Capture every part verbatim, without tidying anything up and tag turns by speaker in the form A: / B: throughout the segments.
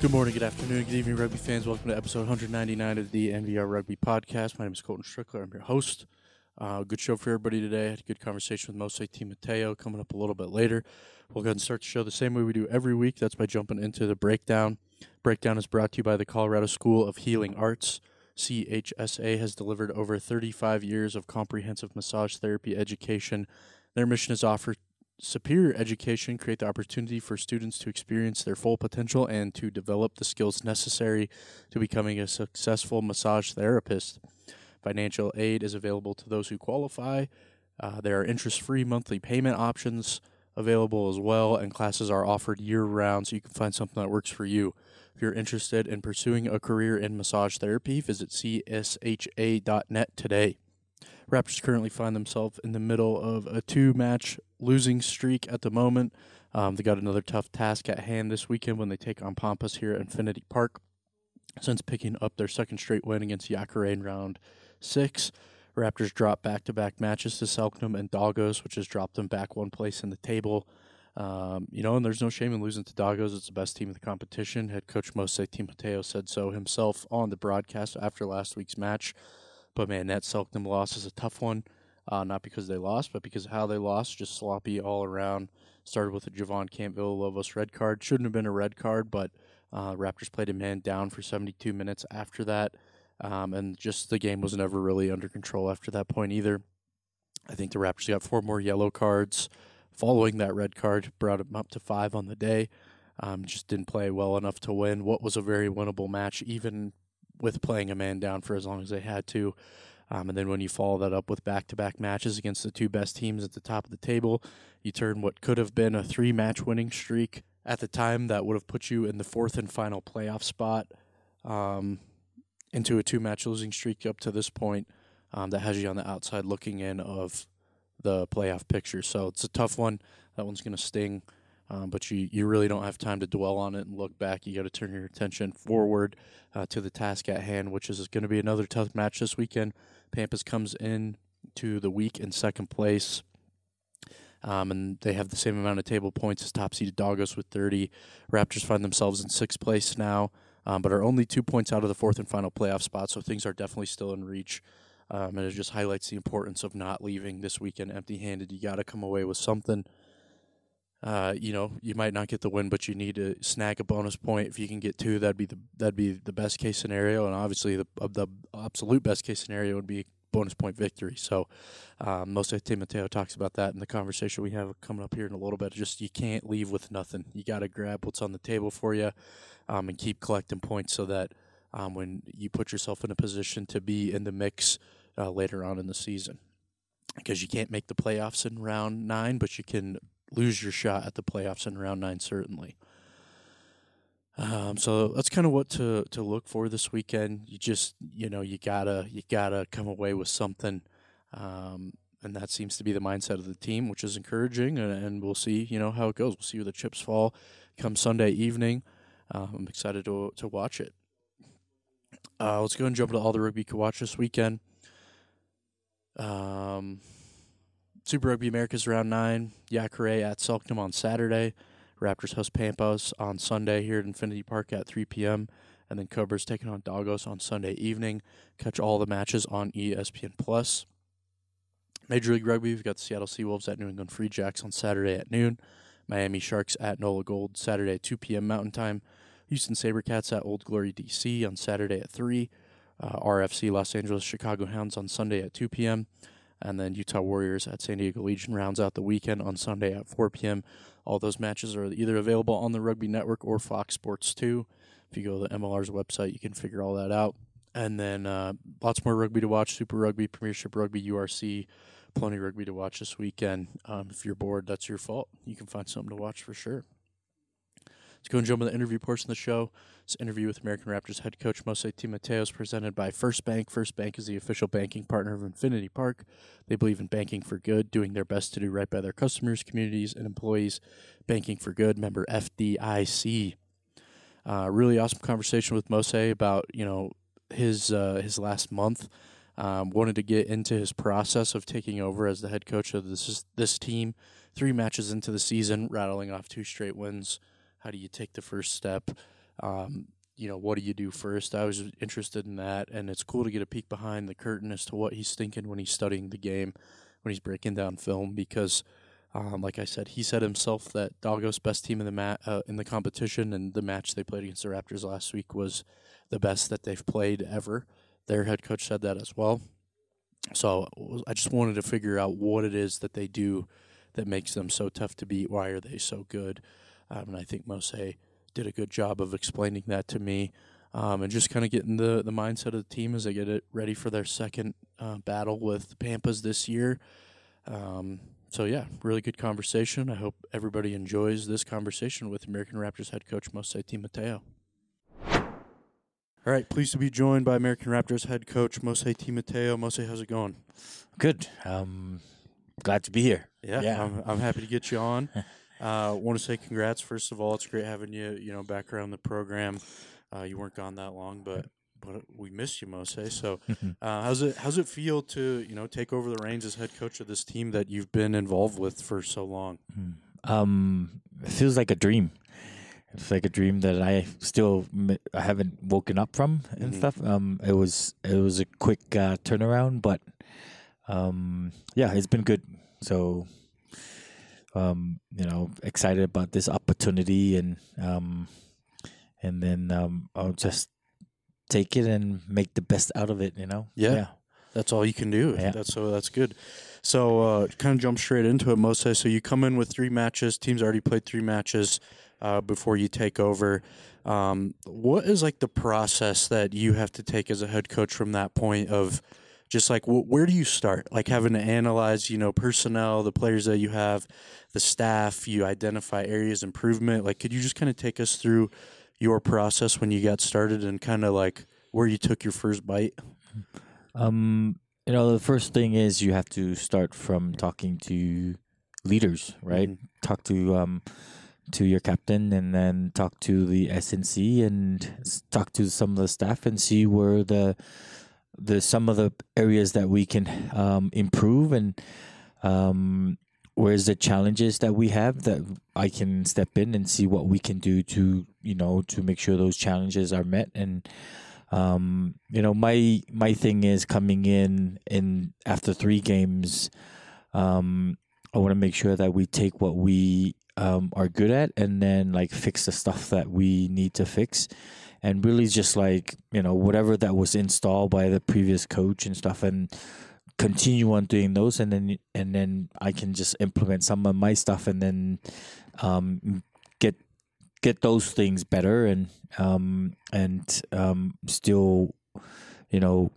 A: Good morning, good afternoon, good evening, rugby fans. Welcome to episode one ninety-nine of the N V R Rugby Podcast. My name is Colton Strickler. I'm your host. Uh, good show for everybody today. I had a good conversation with Mose Timoteo coming up a little bit later. We'll go ahead and start the show the same way we do every week. That's by jumping into the breakdown. Breakdown is brought to you by the Colorado School of Healing Arts. C H S A has delivered over thirty-five years of comprehensive massage therapy education. Their mission is to offer superior education, create the opportunity for students to experience their full potential and to develop the skills necessary to becoming a successful massage therapist. Financial aid is available to those who qualify. Uh, there are interest-free monthly payment options available as well, and classes are offered year-round, so you can find something that works for you. If you're interested in pursuing a career in massage therapy, visit c s h a dot net today. Raptors currently find themselves in the middle of a two-match losing streak at the moment. Um, they got another tough task at hand this weekend when they take on Pampas here at Infinity Park. Since picking up their second straight win against Jacare in round six, Raptors dropped back-to-back matches to Selknam and Dagos, which has dropped them back one place in the table. Um, you know, and there's no shame in losing to Dagos. It's the best team in the competition. Head coach Mose Timoteo said so himself on the broadcast after last week's match. But, man, that Selknam loss is a tough one, uh, not because they lost, but because of how they lost, just sloppy all around. Started with a Javon Camp-Villalobos red card. Shouldn't have been a red card, but uh, Raptors played a man down for seventy-two minutes after that, um, and just the game was never really under control after that point either. I think the Raptors got four more yellow cards following that red card, brought them up to five on the day. Um, just didn't play well enough to win what was a very winnable match, even with playing a man down for as long as they had to. Um, and then when you follow that up with back-to-back matches against the two best teams at the top of the table, you turn what could have been a three-match winning streak at the time that would have put you in the fourth and final playoff spot um, into a two-match losing streak up to this point um, that has you on the outside looking in of the playoff picture. So it's a tough one. That one's going to sting. Um, but you, you really don't have time to dwell on it and look back. You got to turn your attention forward uh, to the task at hand, which is going to be another tough match this weekend. Pampas comes in to the week in second place, um, and they have the same amount of table points as top-seeded Dagos with thirty. Raptors find themselves in sixth place now, um, but are only two points out of the fourth and final playoff spot, so things are definitely still in reach. Um, and it just highlights the importance of not leaving this weekend empty-handed. You got to come away with something. Uh, you know, you might not get the win, but you need to snag a bonus point. If you can get two, that'd be the that'd be the best case scenario, and obviously the the absolute best case scenario would be bonus point victory. So, um, Mose Timoteo talks about that in the conversation we have coming up here in a little bit. Just you can't leave with nothing. You got to grab what's on the table for you, um, and keep collecting points so that um, when you put yourself in a position to be in the mix uh, later on in the season, because you can't make the playoffs in round nine, but you can lose your shot at the playoffs in round nine, certainly. Um, so that's kind of what to, to look for this weekend. You just, you know, you gotta you gotta come away with something, um, and that seems to be the mindset of the team, which is encouraging. And, and we'll see, you know, how it goes. We'll see where the chips fall come Sunday evening. Uh, I'm excited to to watch it. Uh, let's go and jump into all the rugby you can watch this weekend. Um. Super Rugby Americas Round nine, Jacare at Selknam on Saturday. Raptors host Pampas on Sunday here at Infinity Park at three p.m. And then Cobras taking on Dagos on Sunday evening. Catch all the matches on E S P N plus. Major League Rugby, we've got the Seattle Seawolves at New England Free Jacks on Saturday at noon. Miami Sharks at NOLA Gold Saturday at two p.m. Mountain Time. Houston Sabercats at Old Glory D C on Saturday at three. Uh, R F C Los Angeles Chicago Hounds on Sunday at two p.m. And then Utah Warriors at San Diego Legion rounds out the weekend on Sunday at four p.m. All those matches are either available on the Rugby Network or Fox Sports two. If you go to the M L R's website, you can figure all that out. And then uh, lots more rugby to watch, Super Rugby, Premiership Rugby, U R C, plenty of rugby to watch this weekend. Um, if you're bored, that's your fault. You can find something to watch for sure. Let's go and jump into the interview portion of the show. This interview with American Raptors head coach Mose Timoteo is presented by First Bank. First Bank is the official banking partner of Infinity Park. They believe in banking for good, doing their best to do right by their customers, communities, and employees. Banking for good, member F D I C. Uh, really awesome conversation with Mose about, you know, his uh, his last month. Um, wanted to get into his process of taking over as the head coach of this this team. Three matches into the season, rattling off two straight wins. How do you take the first step? Um, you know, what do you do first? I was interested in that, and it's cool to get a peek behind the curtain as to what he's thinking when he's studying the game, when he's breaking down film, because um, like I said, he said himself that Doggo's best team in the ma- uh, in the competition, and the match they played against the Raptors last week was the best that they've played ever. Their head coach said that as well. So I just wanted to figure out what it is that they do that makes them so tough to beat. Why are they so good? Um, and I think Mose did a good job of explaining that to me, um, and just kind of getting the, the mindset of the team as they get it ready for their second uh, battle with the Pampas this year. Um, so, yeah, really good conversation. I hope everybody enjoys this conversation with American Raptors head coach Mose Timateo. All right, pleased to be joined by American Raptors head coach Mose Timateo. Mose, how's it going?
B: Good. Um, glad to be here.
A: Yeah,
B: Yeah.
A: I'm, I'm happy to get you on. I uh, want to say congrats, first of all. It's great having you, you know, back around the program. Uh, you weren't gone that long, but but we missed you, Mose. So uh, how's it how's it feel to, you know, take over the reins as head coach of this team that you've been involved with for so long?
B: Um, it feels like a dream. It's like a dream that I still m- I haven't woken up from and
A: Mhm.
B: stuff. Um, it was it was a quick uh, turnaround, but um, yeah, it's been good. So, um, you know, excited about this opportunity, and um, and then um, I'll just take it and make the best out of it. You know.
A: Yeah.
B: Yeah.
A: That's all you can do.
B: Yeah.
A: That's so that's good. So uh, kind of jump straight into it, Mose. So you come in with three matches. Team's already played three matches uh, before you take over. Um, what is like the process that you have to take as a head coach from that point of just like wh- where do you start? Like having to analyze, you know, personnel, the players that you have, the staff. You identify areas of improvement. Like, could you just kind of take us through your process when you got started and kind of like where you took your first bite?
B: Um, you know, the first thing is you have to start from talking to leaders, right?
A: Mhm.
B: Talk to um to your captain, and then talk to the S N C, and s- talk to some of the staff, and see where the the some of the areas that we can um improve, and um where's the challenges that we have that I can step in and see what we can do to, you know, to make sure those challenges are met. And um, you know, my my thing is coming in in after three games. Um, I want to make sure that we take what we um, are good at, and then like fix the stuff that we need to fix, and really just like, you know, whatever that was installed by the previous coach and stuff, and continue on doing those, and then and then I can just implement some of my stuff, and then um, get get those things better, and um and um still, you know,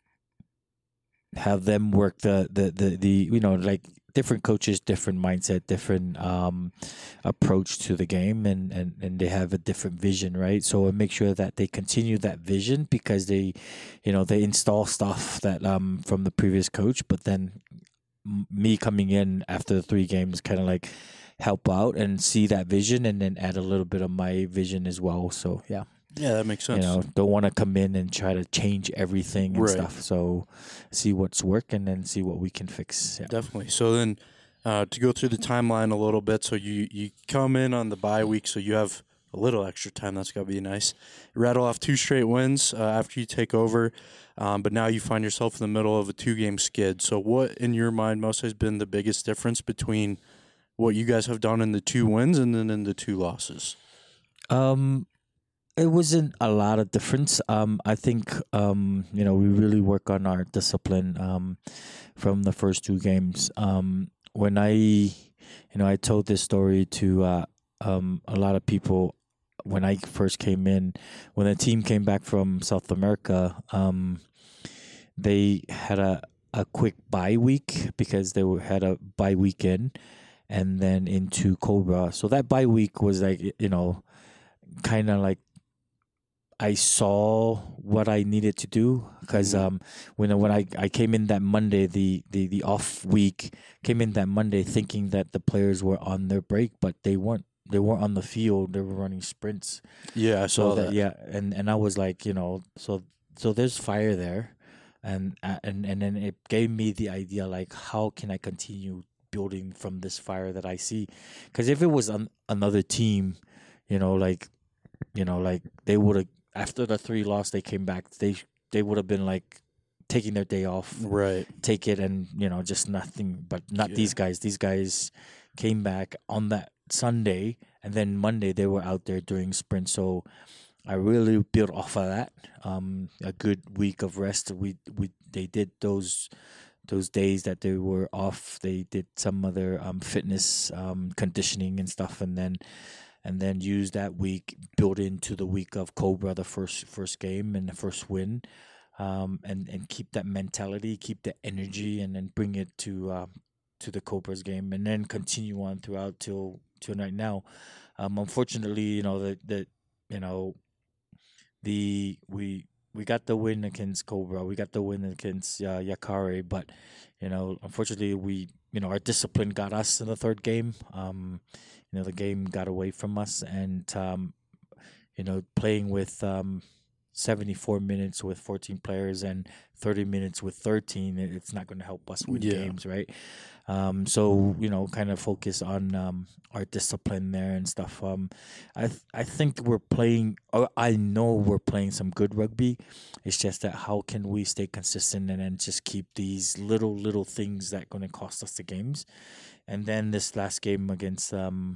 B: have them work the the the, the you know, like different coaches, different mindset, different um approach to the game, and and and they have a different vision, right? So I make sure that they continue that vision, because they, you know, they install stuff that um from the previous coach, but then m- me coming in after the three games kind of like help out and see that vision, and then add a little bit of my vision as well. So yeah,
A: Yeah, that makes
B: you
A: sense.
B: know, don't want to come in and try to change everything and
A: Right.
B: stuff. So see what's working, and then see what we can fix. Yeah.
A: Definitely. So then, uh, to go through the timeline a little bit, so you you come in on the bye week, so you have a little extra time. That's gotta be nice. You rattle off two straight wins uh, after you take over, um, but now you find yourself in the middle of a two game skid. So what, in your mind, most has been the biggest difference between what you guys have done in the two wins and then in the two losses?
B: Um, it wasn't a lot of difference. Um, I think um, you know, we really work on our discipline um, from the first two games. Um, when I, you know, I told this story to uh, um, a lot of people when I first came in. When the team came back from South America, um, they had a a quick bye week, because they were, had a bye weekend, and then into Cobra. So that bye week was like, you know, kind of like I saw what I needed to do, because
A: Mhm.
B: um when when I, I came in that Monday, the, the the off week, came in that Monday thinking that the players were on their break, but they weren't. They weren't on the field. They were running sprints.
A: Yeah, I
B: So
A: saw
B: that,
A: that.
B: yeah, and and I was like, you know, so so there's fire there, and uh, and and then it gave me the idea, like, how can I continue building from this fire that I see? Because if it was an, another team, you know, like you know, like they would have after the three loss, they came back. They they would have been like taking their day off,
A: Right.
B: take it, and you know, just nothing. But not
A: Yeah.
B: these guys. These guys came back on that Sunday, and then Monday they were out there doing sprint. So I really built off of that. Um, a good week of rest. We we they did those those days that they were off. They did some other um, fitness um, conditioning and stuff, and then and then use that week built into the week of Cobra, the first first game and the first win, um, and and keep that mentality, keep the energy, and then bring it to um, to the Cobras game, and then continue on throughout till till right now. Um, unfortunately, you know that that you know the we we got the win against Cobra, we got the win against uh, Yakare, but you know, unfortunately, we you know our discipline got us in the third game. Um, you know, the game got away from us, and um, you know, playing with um, seventy-four minutes with fourteen players and thirty minutes with thirteen, it- it's not going to help us win
A: Yeah.
B: games, right? Um, so you know, kind of focus on um, our discipline there and stuff. Um, I th- I think we're playing. Or I know we're playing some good rugby. It's just that how can we stay consistent and then just keep these little little things that going to cost us the games. And then this last game against um,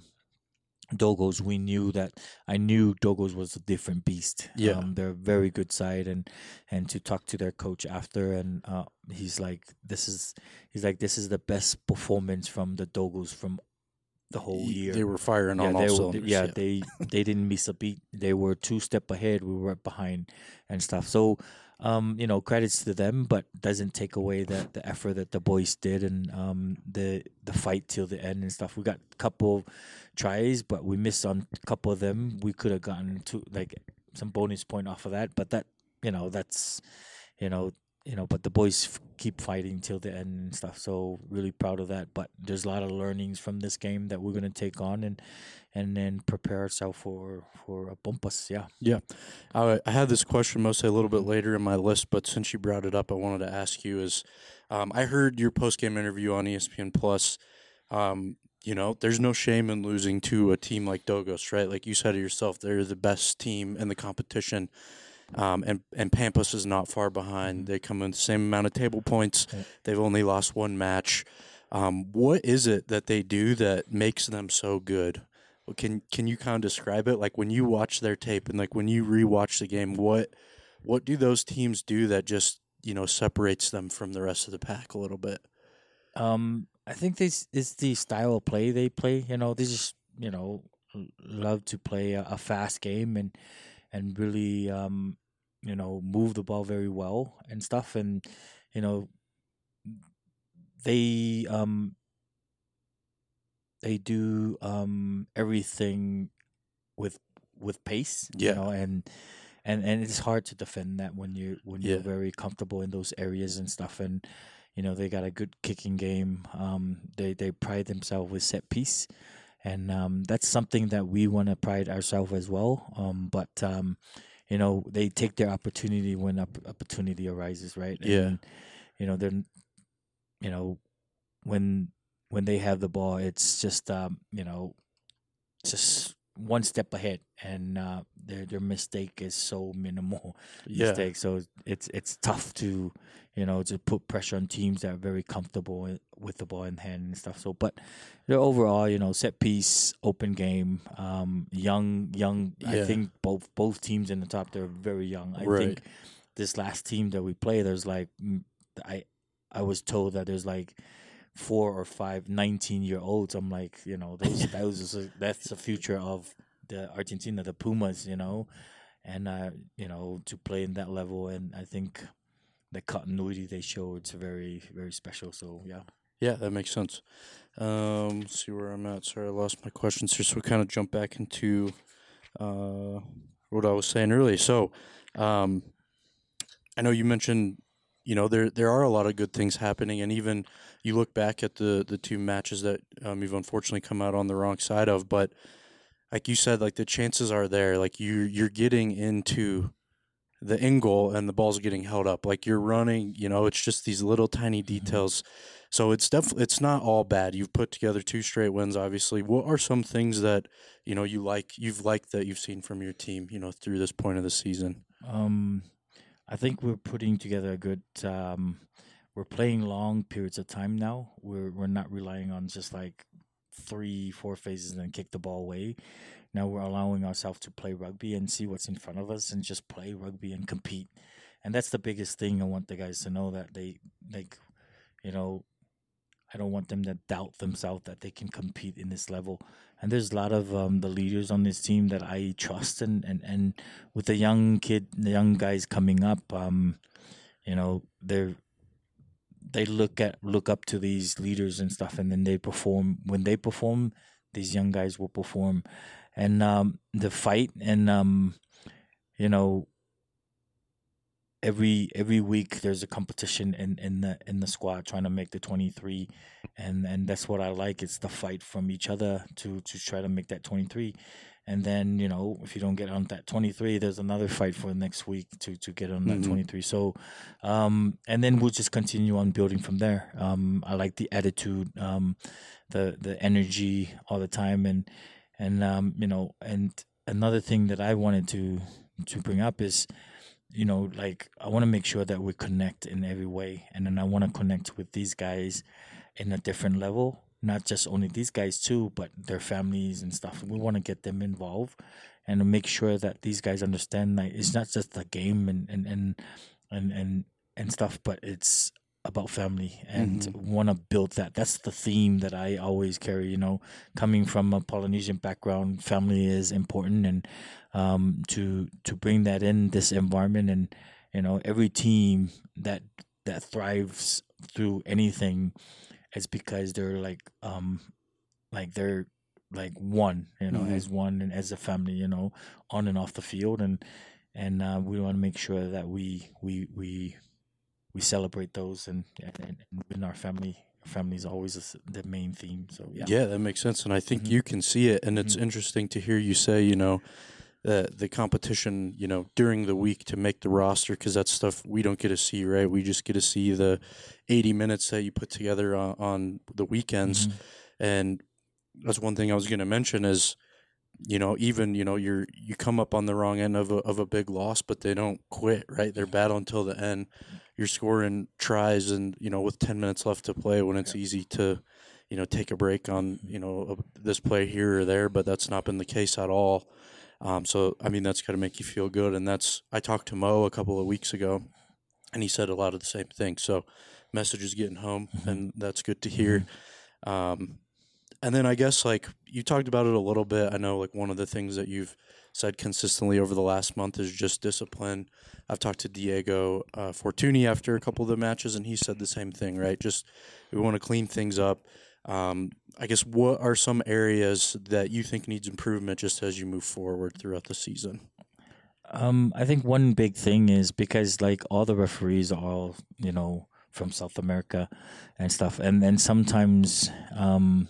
B: Dogos, we knew that I knew Dogos was a different beast.
A: Yeah.
B: Um, they're a very good side, and and to talk to their coach after, and uh, he's like, this is he's like, this is the best performance from the Dogos from the whole
A: Y-
B: year.
A: They were firing
B: yeah,
A: on
B: they
A: all
B: were,
A: cylinders.
B: yeah, they they didn't miss a beat. They were two step ahead. We were right behind and stuff. So, um, you know, credits to them, but doesn't take away the the effort that the boys did and um the the fight till the end and stuff. We got a couple tries, but we missed on a couple of them. We could have gotten to like some bonus point off of that, but that you know that's you know you know but the boys f- keep fighting till the end and stuff, so really proud of that. But there's a lot of learnings from this game that we're going to take on and and then prepare ourselves for for a bumpus. Yeah.
A: Yeah. I, I had this question mostly a little bit later in my list, but since you brought it up, I wanted to ask you is um, I heard your post game interview on E S P N Plus. Um, you know, there's no shame in losing to a team like Dogos, right? Like you said it yourself, they're the best team in the competition. Um, and, and Pampas is not far behind.
B: Mhm.
A: They come in the same amount of table points.
B: Yeah.
A: They've only lost one match. Um, what is it that they do that makes them so good? Well, Can can you kind of describe it? Like when you watch their tape and like when you rewatch the game, what what do those teams do that just you know separates them from the rest of the pack a little bit?
B: Um, I think this is the style of play they play. You know, they just you know l- love to play a, a fast game and and really um you know move the ball very well and stuff. And you know they um they do um everything with with pace. You
A: Yeah,
B: know, and and and it's hard to defend that when you when you're
A: yeah,
B: very comfortable in those areas and stuff. And you know they got a good kicking game. Um, they they pride themselves with set piece, and um, that's something that we want to pride ourselves as well. Um, but um, you know they take their opportunity when op- opportunity arises, right?
A: yeah,
B: And you know they're you know when when they have the ball, it's just um, you know just one step ahead, and uh, their their mistake is so minimal
A: yeah,
B: mistake. So it's it's tough to you know to put pressure on teams that are very comfortable with with the ball in hand and stuff. So, but they're overall, you know, set piece, open game, um, young, young. I
A: yeah.
B: think both both teams in the top they're very young. I
A: Right.
B: think this last team that we play, there's like mm, I I was told that there's like four or five nineteen year olds. I'm like, you know, those those is a, that's the future of the Argentina, the Pumas, you know, and uh, you know, to play in that level, and I think the continuity they show it's very very special. So yeah.
A: Yeah, that makes sense. Um, let's see where I'm at. Sorry, I lost my questions here, so we kind of jump back into uh, what I was saying earlier. So, um, I know you mentioned, you know, there there are a lot of good things happening, and even you look back at the the two matches that um, you've unfortunately come out on the wrong side of, but like you said, like the chances are there. Like you you're getting into the in goal and the ball's getting held up. Like you're running, you know, it's just these little tiny details. So it's definitely it's not all bad. You've put together two straight wins, obviously. What are some things that you know you like you've liked that you've seen from your team, you know, through this point of the season?
B: Um, I think we're putting together a good. Um, we're playing long periods of time now. We're we're not relying on just like three, four phases and then kick the ball away. Now we're allowing ourselves to play rugby and see what's in front of us and just play rugby and compete. And that's the biggest thing. I want the guys to know that they like, you know, I don't want them to doubt themselves that they can compete in this level. And there's a lot of um, the leaders on this team that I trust, and, and, and with the young kid, the young guys coming up, um, you know, they're they look at look up to these leaders and stuff, and then they perform. When they perform, these young guys will perform, and um, the fight, and um, you know, every every week there's a competition in, in the in the squad trying to make the twenty-three, and and that's what I like. It's the fight from each other to to try to make that twenty-three, and then you know if you don't get on that twenty-three, there's another fight for next week to to get on that
A: Mhm.
B: twenty-three. So, um, and then we'll just continue on building from there. Um, I like the attitude, um, the the energy all the time, and and um, you know, and another thing that I wanted to to bring up is you know, like I want to make sure that we connect in every way, and then I want to connect with these guys in a different level. Not just only these guys too, but their families and stuff. We want to get them involved, and to make sure that these guys understand that it's not just a game and and and and and, and stuff, but it's about family, and
A: Mhm.
B: want to build that. That's the theme that I always carry. You know, coming from a Polynesian background, family is important, and um, to to bring that in this environment, and you know every team that that thrives through anything is because they're like um like they're like one, you know,
A: Mhm.
B: as one and as a family, you know, on and off the field, and and uh, we want to make sure that we we we we celebrate those, and and, and in our family. Family is always the s- the main theme. So yeah.
A: Yeah, that makes sense, and I think
B: Hmm.
A: you can see it. And it's
B: Hmm.
A: interesting to hear you say, you know, the the competition, you know, during the week to make the roster, because that's stuff we don't get to see, right? We just get to see the eighty minutes that you put together on, on the weekends,
B: Hmm.
A: and that's one thing I was going to mention is, you know, even you know, you're you come up on the wrong end of a of a big loss, but they don't quit, right? They're battle until the end. You're scoring tries, and you know, with ten minutes left to play, when it's
B: Yeah.
A: easy to, you know, take a break on you know a, this play here or there, but that's not been the case at all. Um, so I mean, that's got to make you feel good, and that's I talked to Mo a couple of weeks ago, and he said a lot of the same things. So, message is getting home,
B: Hmm.
A: and that's good to
B: Hmm.
A: hear. Um, and then I guess like you talked about it a little bit. I know like one of the things that you've said consistently over the last month is just discipline. I've talked to Diego uh, Fortuny after a couple of the matches, and he said the same thing. Right, just we want to clean things up. Um, I guess what are some areas that you think needs improvement just as you move forward throughout the season?
B: Um, I think one big thing is because like all the referees are all, you know, from South America and stuff, and then sometimes um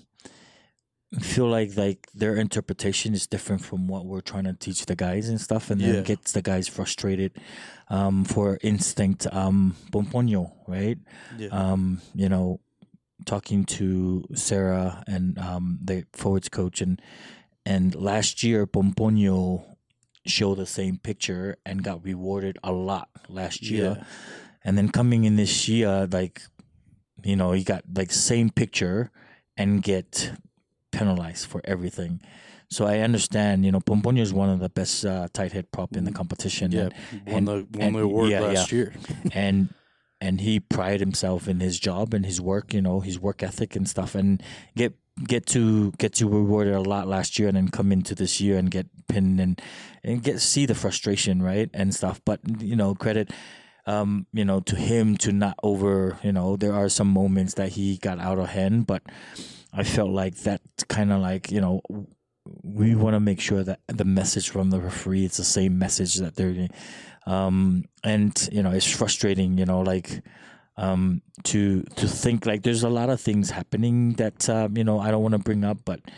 B: feel like like their interpretation is different from what we're trying to teach the guys and stuff, and then
A: Yeah,
B: gets the guys frustrated. Um, for instinct, um, Pomponio, right?
A: yeah,
B: Um, you know, talking to Sarah and um the forwards coach, and and last year Pomponio showed the same picture and got rewarded a lot last year,
A: yeah.
B: and then coming in this year, like you know, he got like same picture and get penalized for everything. So I understand, you know, Pomponio is one of the best uh, tight head prop in the
A: Mm,
B: competition,
A: yeah,
B: and
A: won
B: and
A: the won
B: and
A: the award
B: yeah, yeah,
A: last year.
B: and and he prided himself in his job and his work, you know, his work ethic and stuff, and get get to get to rewarded a lot last year, and then come into this year and get pinned, and and get see the frustration, right, and stuff. But you know, credit um, you know, to him to not over, you know, there are some moments that he got out of hand, but I felt like that kind of like, you know, we want to make sure that the message from the referee is the same message that they're, um, and you know, it's frustrating, you know, like, um, to to think like there's a lot of things happening that um, you know I don't want to bring up, but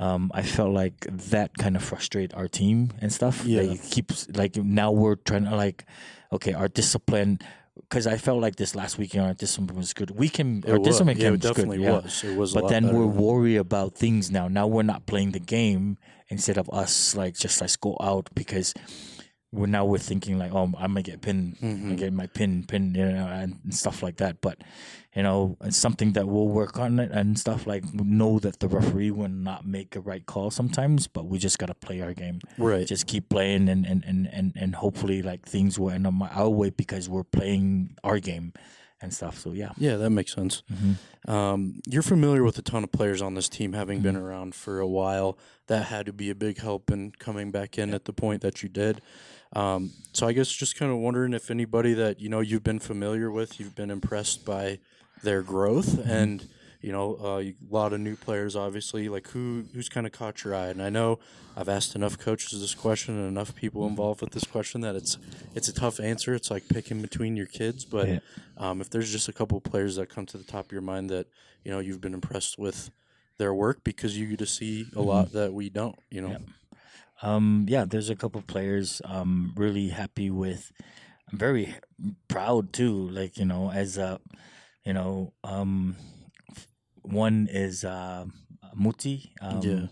B: um, I felt like that kind of frustrated our team and stuff.
A: Yeah.
B: Like, it keeps like now we're trying to like, okay, our discipline. Because I felt like this last weekend our discipline was good. We can our
A: It was.
B: discipline
A: Yeah,
B: can
A: it definitely
B: good, yeah.
A: was. It was a
B: But
A: lot
B: then
A: better
B: we're
A: than-
B: worried about things now. Now we're not playing the game instead of us like just let's go out because we're now we're thinking like, oh, I'm gonna get pinned,
A: Mhm.
B: I get my pin, pin, you know, and stuff like that. But you know, it's something that we'll work on it and stuff. Like know that the referee will not make a right call sometimes, but we just gotta play our game.
A: Right.
B: Just keep playing, and and and and, and hopefully like things will end up our way because we're playing our game and stuff. So yeah.
A: Yeah, that makes sense.
B: Mm-hmm.
A: Um, you're familiar with a ton of players on this team, having been
B: Mhm.
A: around for a while. That had to be a big help in coming back in at the point that you did. Um, so I guess just kind of wondering if anybody that you know you've been familiar with, you've been impressed by their growth, and you know uh, a lot of new players, obviously. Like who who's kind of caught your eye? And I know I've asked enough coaches this question and enough people involved with this question that it's it's a tough answer. It's like picking between your kids, but
B: Yeah.
A: um, if there's just a couple of players that come to the top of your mind that you know you've been impressed with their work because you get to see a lot that we don't, you know.
B: Yeah. Um, yeah, there's a couple players I'm really happy with. I'm very proud too. Like you know, as a, you know, um, f- one is uh, Muti. Um,
A: Yeah.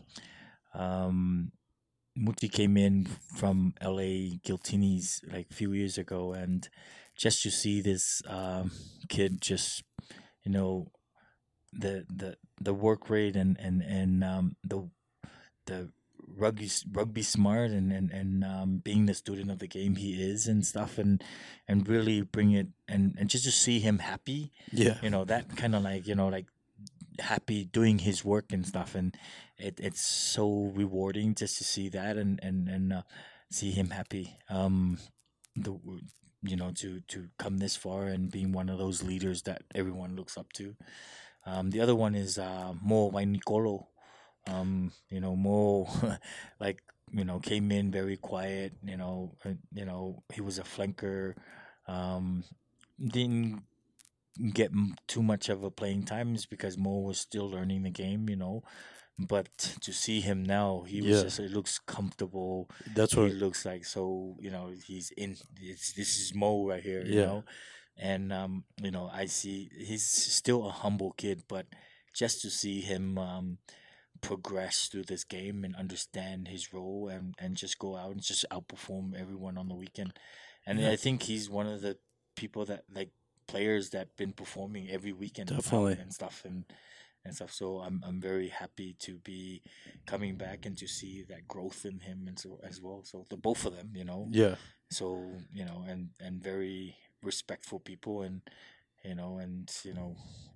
B: Um, Muti came in from L A Giltinis like a few years ago, and just to see this um, kid just, you know, the the the work rate and and and um, the the rugby rugby smart and and and um, being the student of the game he is and stuff and and really bring it and and just to see him happy,
A: Yeah.
B: you know, that kind of like you know like happy doing his work and stuff, and it it's so rewarding just to see that and and and uh, see him happy. Um, the you know to to come this far and being one of those leaders that everyone looks up to. Um, the other one is uh, Mo Vainicolo. Um, you know, Mo, like you know, came in very quiet. You know, uh, you know, he was a flanker. Um, didn't get m- too much of a playing times because Mo was still learning the game. You know, but to see him now, he was
A: Yeah.
B: just he looks comfortable.
A: That's
B: He
A: what.
B: looks like so you know he's in. It's, this is Mo right here. You
A: Yeah.
B: know, and um, you know I see he's still a humble kid, but just to see him um, progress through this game and understand his role and, and just go out and just outperform everyone on the weekend. And
A: Yeah.
B: I think he's one of the people that like players that been performing every weekend out
A: Definitely.
B: and stuff and and stuff. So I'm I'm very happy to be coming back and to see that growth in him and so as well. So the both of them, you know.
A: Yeah.
B: So you know, and and very respectful people, and you know, and you know,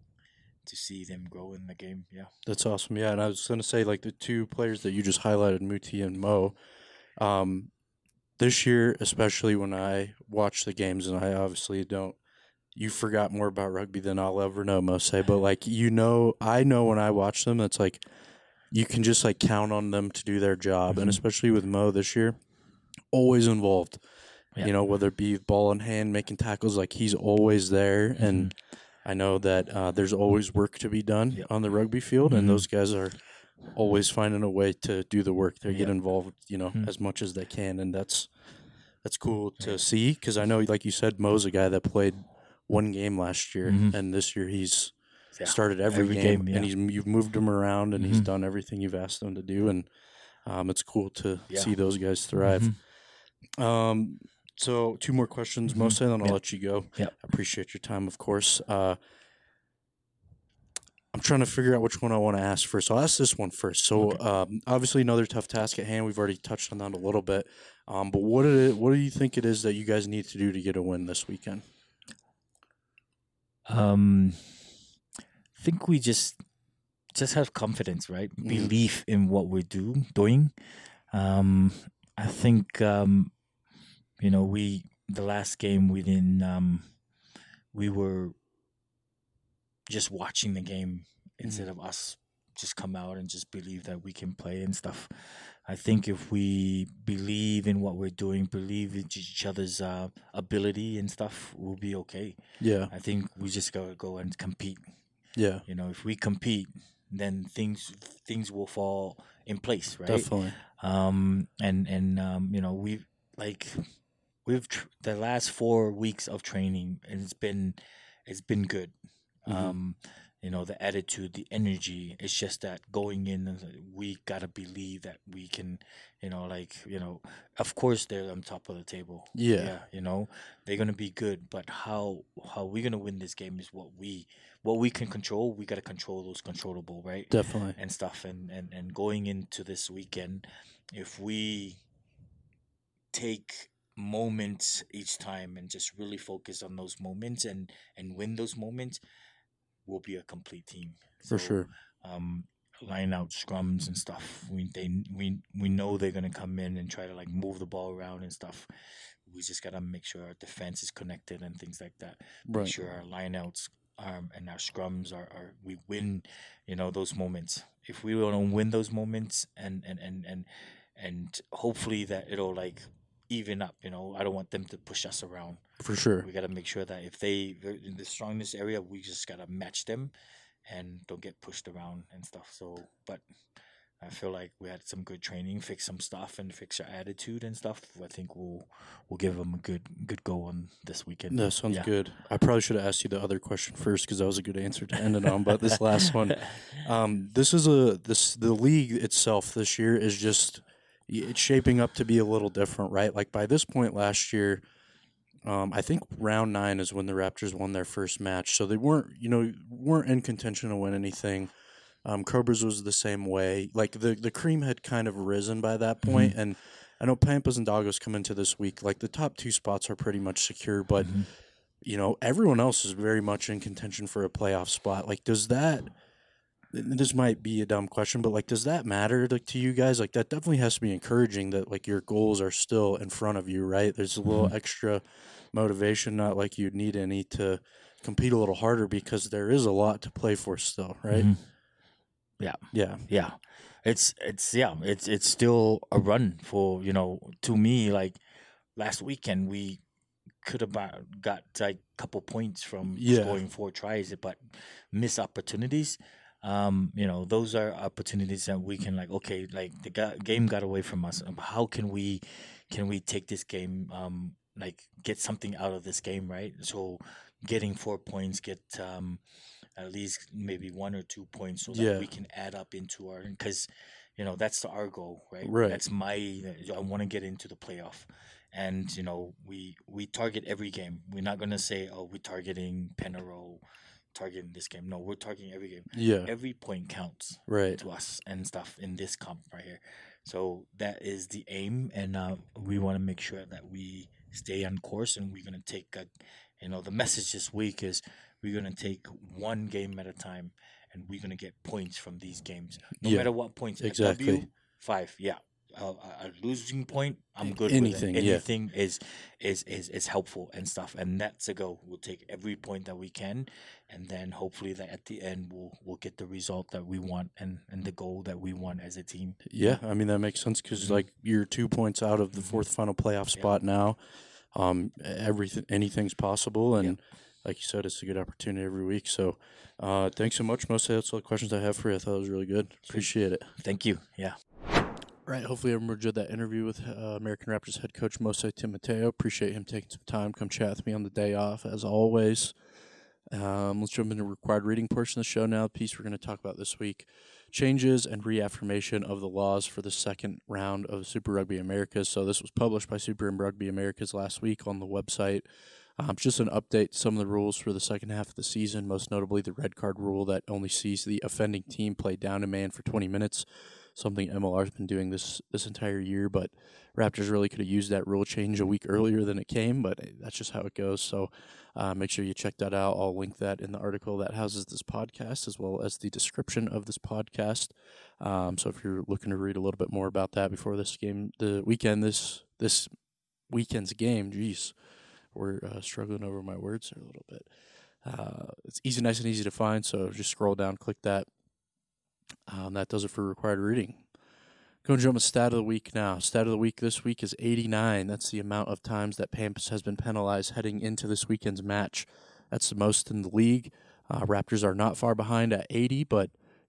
B: to see them grow in the game. Yeah.
A: That's awesome. Yeah, and I was gonna say like the two players that you just highlighted, Muti and Mo. Um, this year, especially when I watch the games, and I obviously don't. You forgot more about rugby than I'll ever know, Mose. But like you know, I know when I watch them, it's like you can just like count on them to do their job, and
B: Mhm.
A: especially with Mo this year, always involved.
B: Yeah.
A: You know, whether it be ball in hand, making tackles, like he's always there, and I know that uh, there's always work to be done
B: Yep.
A: on the rugby field,
B: Mhm.
A: and those guys are always finding a way to do the work. They get
B: Yeah.
A: involved, you know,
B: Mhm.
A: as much as they can, and that's that's cool to see because I know, like you said, Mo's a guy that played one game last year,
B: Mhm.
A: and this year he's
B: Yeah.
A: started every,
B: Every
A: game,
B: game,
A: and
B: yeah.
A: he's you've moved him around, and he's
B: Mhm.
A: done everything you've asked him to do, and um, it's cool to
B: Yeah.
A: see those guys thrive.
B: Mhm.
A: Um, so two more questions,
B: Mhm.
A: Mose, and then I'll
B: Yep.
A: let you go.
B: Yep.
A: I appreciate your time, of course. Uh, I'm trying to figure out which one I want to ask first. I'll ask this one first. So,
B: Okay.
A: um, obviously, another tough task at hand. We've already touched on that a little bit. Um, but what did it, what do you think it is that you guys need to do to get a win this weekend?
B: Um, I think we just just have confidence, right?
A: Mhm.
B: Belief in what we're do doing. Um, I think um, you know we the last game we didn't um, we were just watching the game instead of us just come out and just believe that we can play and stuff. I think if we believe in what we're doing, believe in each other's uh, ability and stuff, we'll be okay.
A: Yeah,
B: I think we just gotta go and compete.
A: yeah,
B: You know, if we compete, then things things will fall in place, right?
A: Definitely.
B: Um, and and um, you know, we've like we've tr- the last four weeks of training, and it's been it's been good.
A: Mhm.
B: Um, you know, the attitude, the energy. It's just that going in, and like, we gotta believe that we can. You know, like you know, of course they're on top of the table.
A: Yeah.
B: Yeah, you know, they're gonna be good, but how how we gonna win this game is what we what we can control. We gotta control those controllable, right?
A: Definitely.
B: And stuff, and and and going into this weekend, if we take moments each time and just really focus on those moments and and win those moments, we'll be a complete team.
A: For
B: So
A: sure.
B: um line out scrums and stuff, we they we we know they're gonna come in and try to like move the ball around and stuff. We just gotta make sure our defense is connected and things like that. Make
A: Right.
B: sure our lineouts um and our scrums are, are we win, you know, those moments. If we don't win those moments, and and and and and hopefully that it'll like even up, you know. I don't want them to push us around.
A: For sure.
B: We gotta make sure that if they they're in the strongest area, we just gotta match them and don't get pushed around and stuff. So, but I feel like we had some good training, fix some stuff, and fix our attitude and stuff. I think we'll we'll give them a good good go on this weekend.
A: That sounds
B: Yeah.
A: good. I probably should have asked you the other question first because that was a good answer to end it on. But this last one, um, this is a this the league itself this year is just it's shaping up to be a little different, right? Like by this point last year, um, I think round nine is when the Raptors won their first match, so they weren't you know weren't in contention to win anything. Um, Cobras was the same way. Like the the cream had kind of risen by that point, and I know Pampas and Dagos come into this week. Like the top two spots are pretty much secure, but
B: Mhm.
A: you know everyone else is very much in contention for a playoff spot. Like, does that? This might be a dumb question, but like, does that matter like to you guys? Like, that definitely has to be encouraging that like your goals are still in front of you, right? There's a little
B: Mhm.
A: extra motivation, not like you'd need any to compete a little harder because there is a lot to play for still, right?
B: Mhm. Yeah.
A: Yeah.
B: Yeah, it's it's yeah, it's it's still a run for, you know, to me, like last weekend we could have got like a couple points from
A: Yeah.
B: scoring four tries, but miss opportunities. Um, you know, those are opportunities that we can like, okay, like the ga- game got away from us. Um, How can we can we take this game, um, like get something out of this game, right? So getting four points, get um at least maybe one or two points so that
A: Yeah.
B: we can add up into our, because you know that's our goal, right?
A: Right.
B: That's my I want to get into the playoff, and you know we we target every game. We're not gonna say, oh, we're targeting Penarol, targeting this game. No, we're targeting every game.
A: Yeah.
B: Every point counts
A: Right.
B: to us and stuff in this comp right here. So that is the aim, and uh, we want to make sure that we stay on course, and we're gonna take a, you know, the message this week is we're gonna take one game at a time, and we're gonna get points from these games, no
A: Yeah.
B: matter what points.
A: Exactly.
B: A W, five, yeah. A, a losing point, I'm good
A: Anything,
B: with it.
A: yeah.
B: Anything is, is is is helpful and stuff, and that's a go. We'll take every point that we can, and then hopefully that at the end we'll we'll get the result that we want and and the goal that we want as a team.
A: Yeah, I mean that makes sense because
B: Mhm.
A: like you're two points out of the
B: Mhm.
A: fourth final playoff
B: Yeah.
A: spot now. Um, everything, anything's possible, and
B: Yep.
A: like you said, it's a good opportunity every week. So, uh, thanks so much. Mostly that's all the questions I have for you. I thought it was really good. Appreciate it.
B: Thank you. Yeah.
A: Right. Hopefully, everyone enjoyed that interview with uh, American Raptors head coach Mose Timoteo. Appreciate him taking some time, come chat with me on the day off, as always. Um, let's jump into the required reading portion of the show now. The piece we're going to talk about this week: changes and reaffirmation of the laws for the second round of Super Rugby Americas. So this was published by Super Rugby Americas last week on the website. Um, just an update to some of the rules for the second half of the season, most notably the red card rule that only sees the offending team play down a man for twenty minutes, something M L R's been doing this this entire year, but Raptors really could have used that rule change a week earlier than it came, but that's just how it goes. So uh, make sure you check that out. I'll link that in the article that houses this podcast as well as the description of this podcast. Um, so if you're looking to read a little bit more about that before this game, the weekend, this this weekend's game, geez. We're uh, struggling over my words here a little bit. Uh, it's easy, nice and easy to find, so just scroll down, click that. Um, that does it for required reading. Going to jump to stat of the week now. Stat of the week this week is eighty-nine. That's the amount of times that Pampas has been penalized heading into this weekend's match. That's the most in the league. Uh, Raptors are not far behind at eighty, but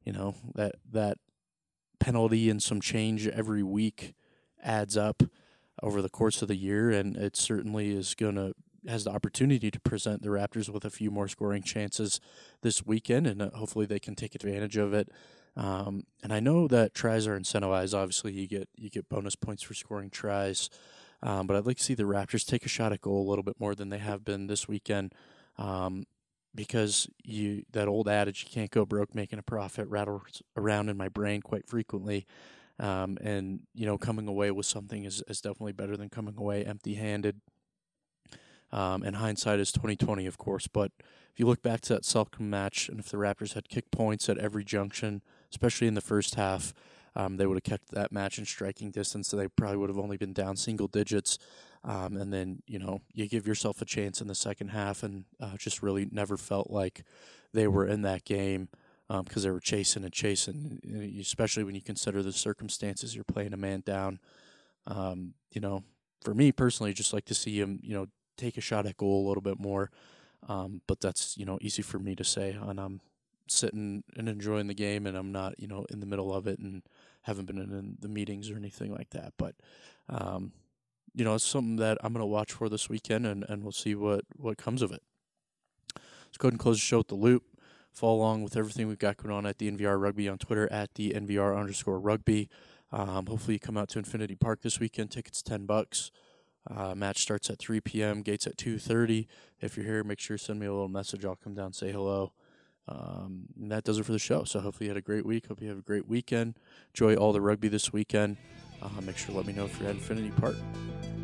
A: you know, that that penalty and some change every week adds up over the course of the year, and it certainly is going to has the opportunity to present the Raptors with a few more scoring chances this weekend, and uh, hopefully they can take advantage of it. Um, and I know that tries are incentivized. Obviously, you get you get bonus points for scoring tries, um, but I'd like to see the Raptors take a shot at goal a little bit more than they have been this weekend, um, because you that old adage, you can't go broke making a profit, rattles around in my brain quite frequently. Um, and you know, coming away with something is, is definitely better than coming away empty-handed. Um, and hindsight is twenty twenty, of course. But if you look back to that Selkirk match, and if the Raptors had kicked points at every junction, especially in the first half, um, they would have kept that match in striking distance. So they probably would have only been down single digits. Um, and then, you know, you give yourself a chance in the second half, and uh, just really never felt like they were in that game because um, they were chasing and chasing, especially when you consider the circumstances. You're playing a man down. Um, you know, for me personally, just like to see him, you know, take a shot at goal a little bit more. Um, but that's, you know, easy for me to say, and I'm sitting and enjoying the game, and I'm not, you know, in the middle of it and haven't been in the meetings or anything like that. But, um, you know, it's something that I'm going to watch for this weekend, and, and we'll see what, what comes of it. Let's go ahead and close the show with the loop. Follow along with everything we've got going on at the N V R Rugby on Twitter at the N V R underscore rugby. Um, hopefully you come out to Infinity Park this weekend. Tickets ten bucks. Uh, match starts at three p.m. Gates at two thirty. If you're here, make sure to send me a little message. I'll come down and say hello. Um, and that does it for the show. So hopefully you had a great week. Hope you have a great weekend. Enjoy all the rugby this weekend. Uh, make sure to let me know if you're at Infinity Park.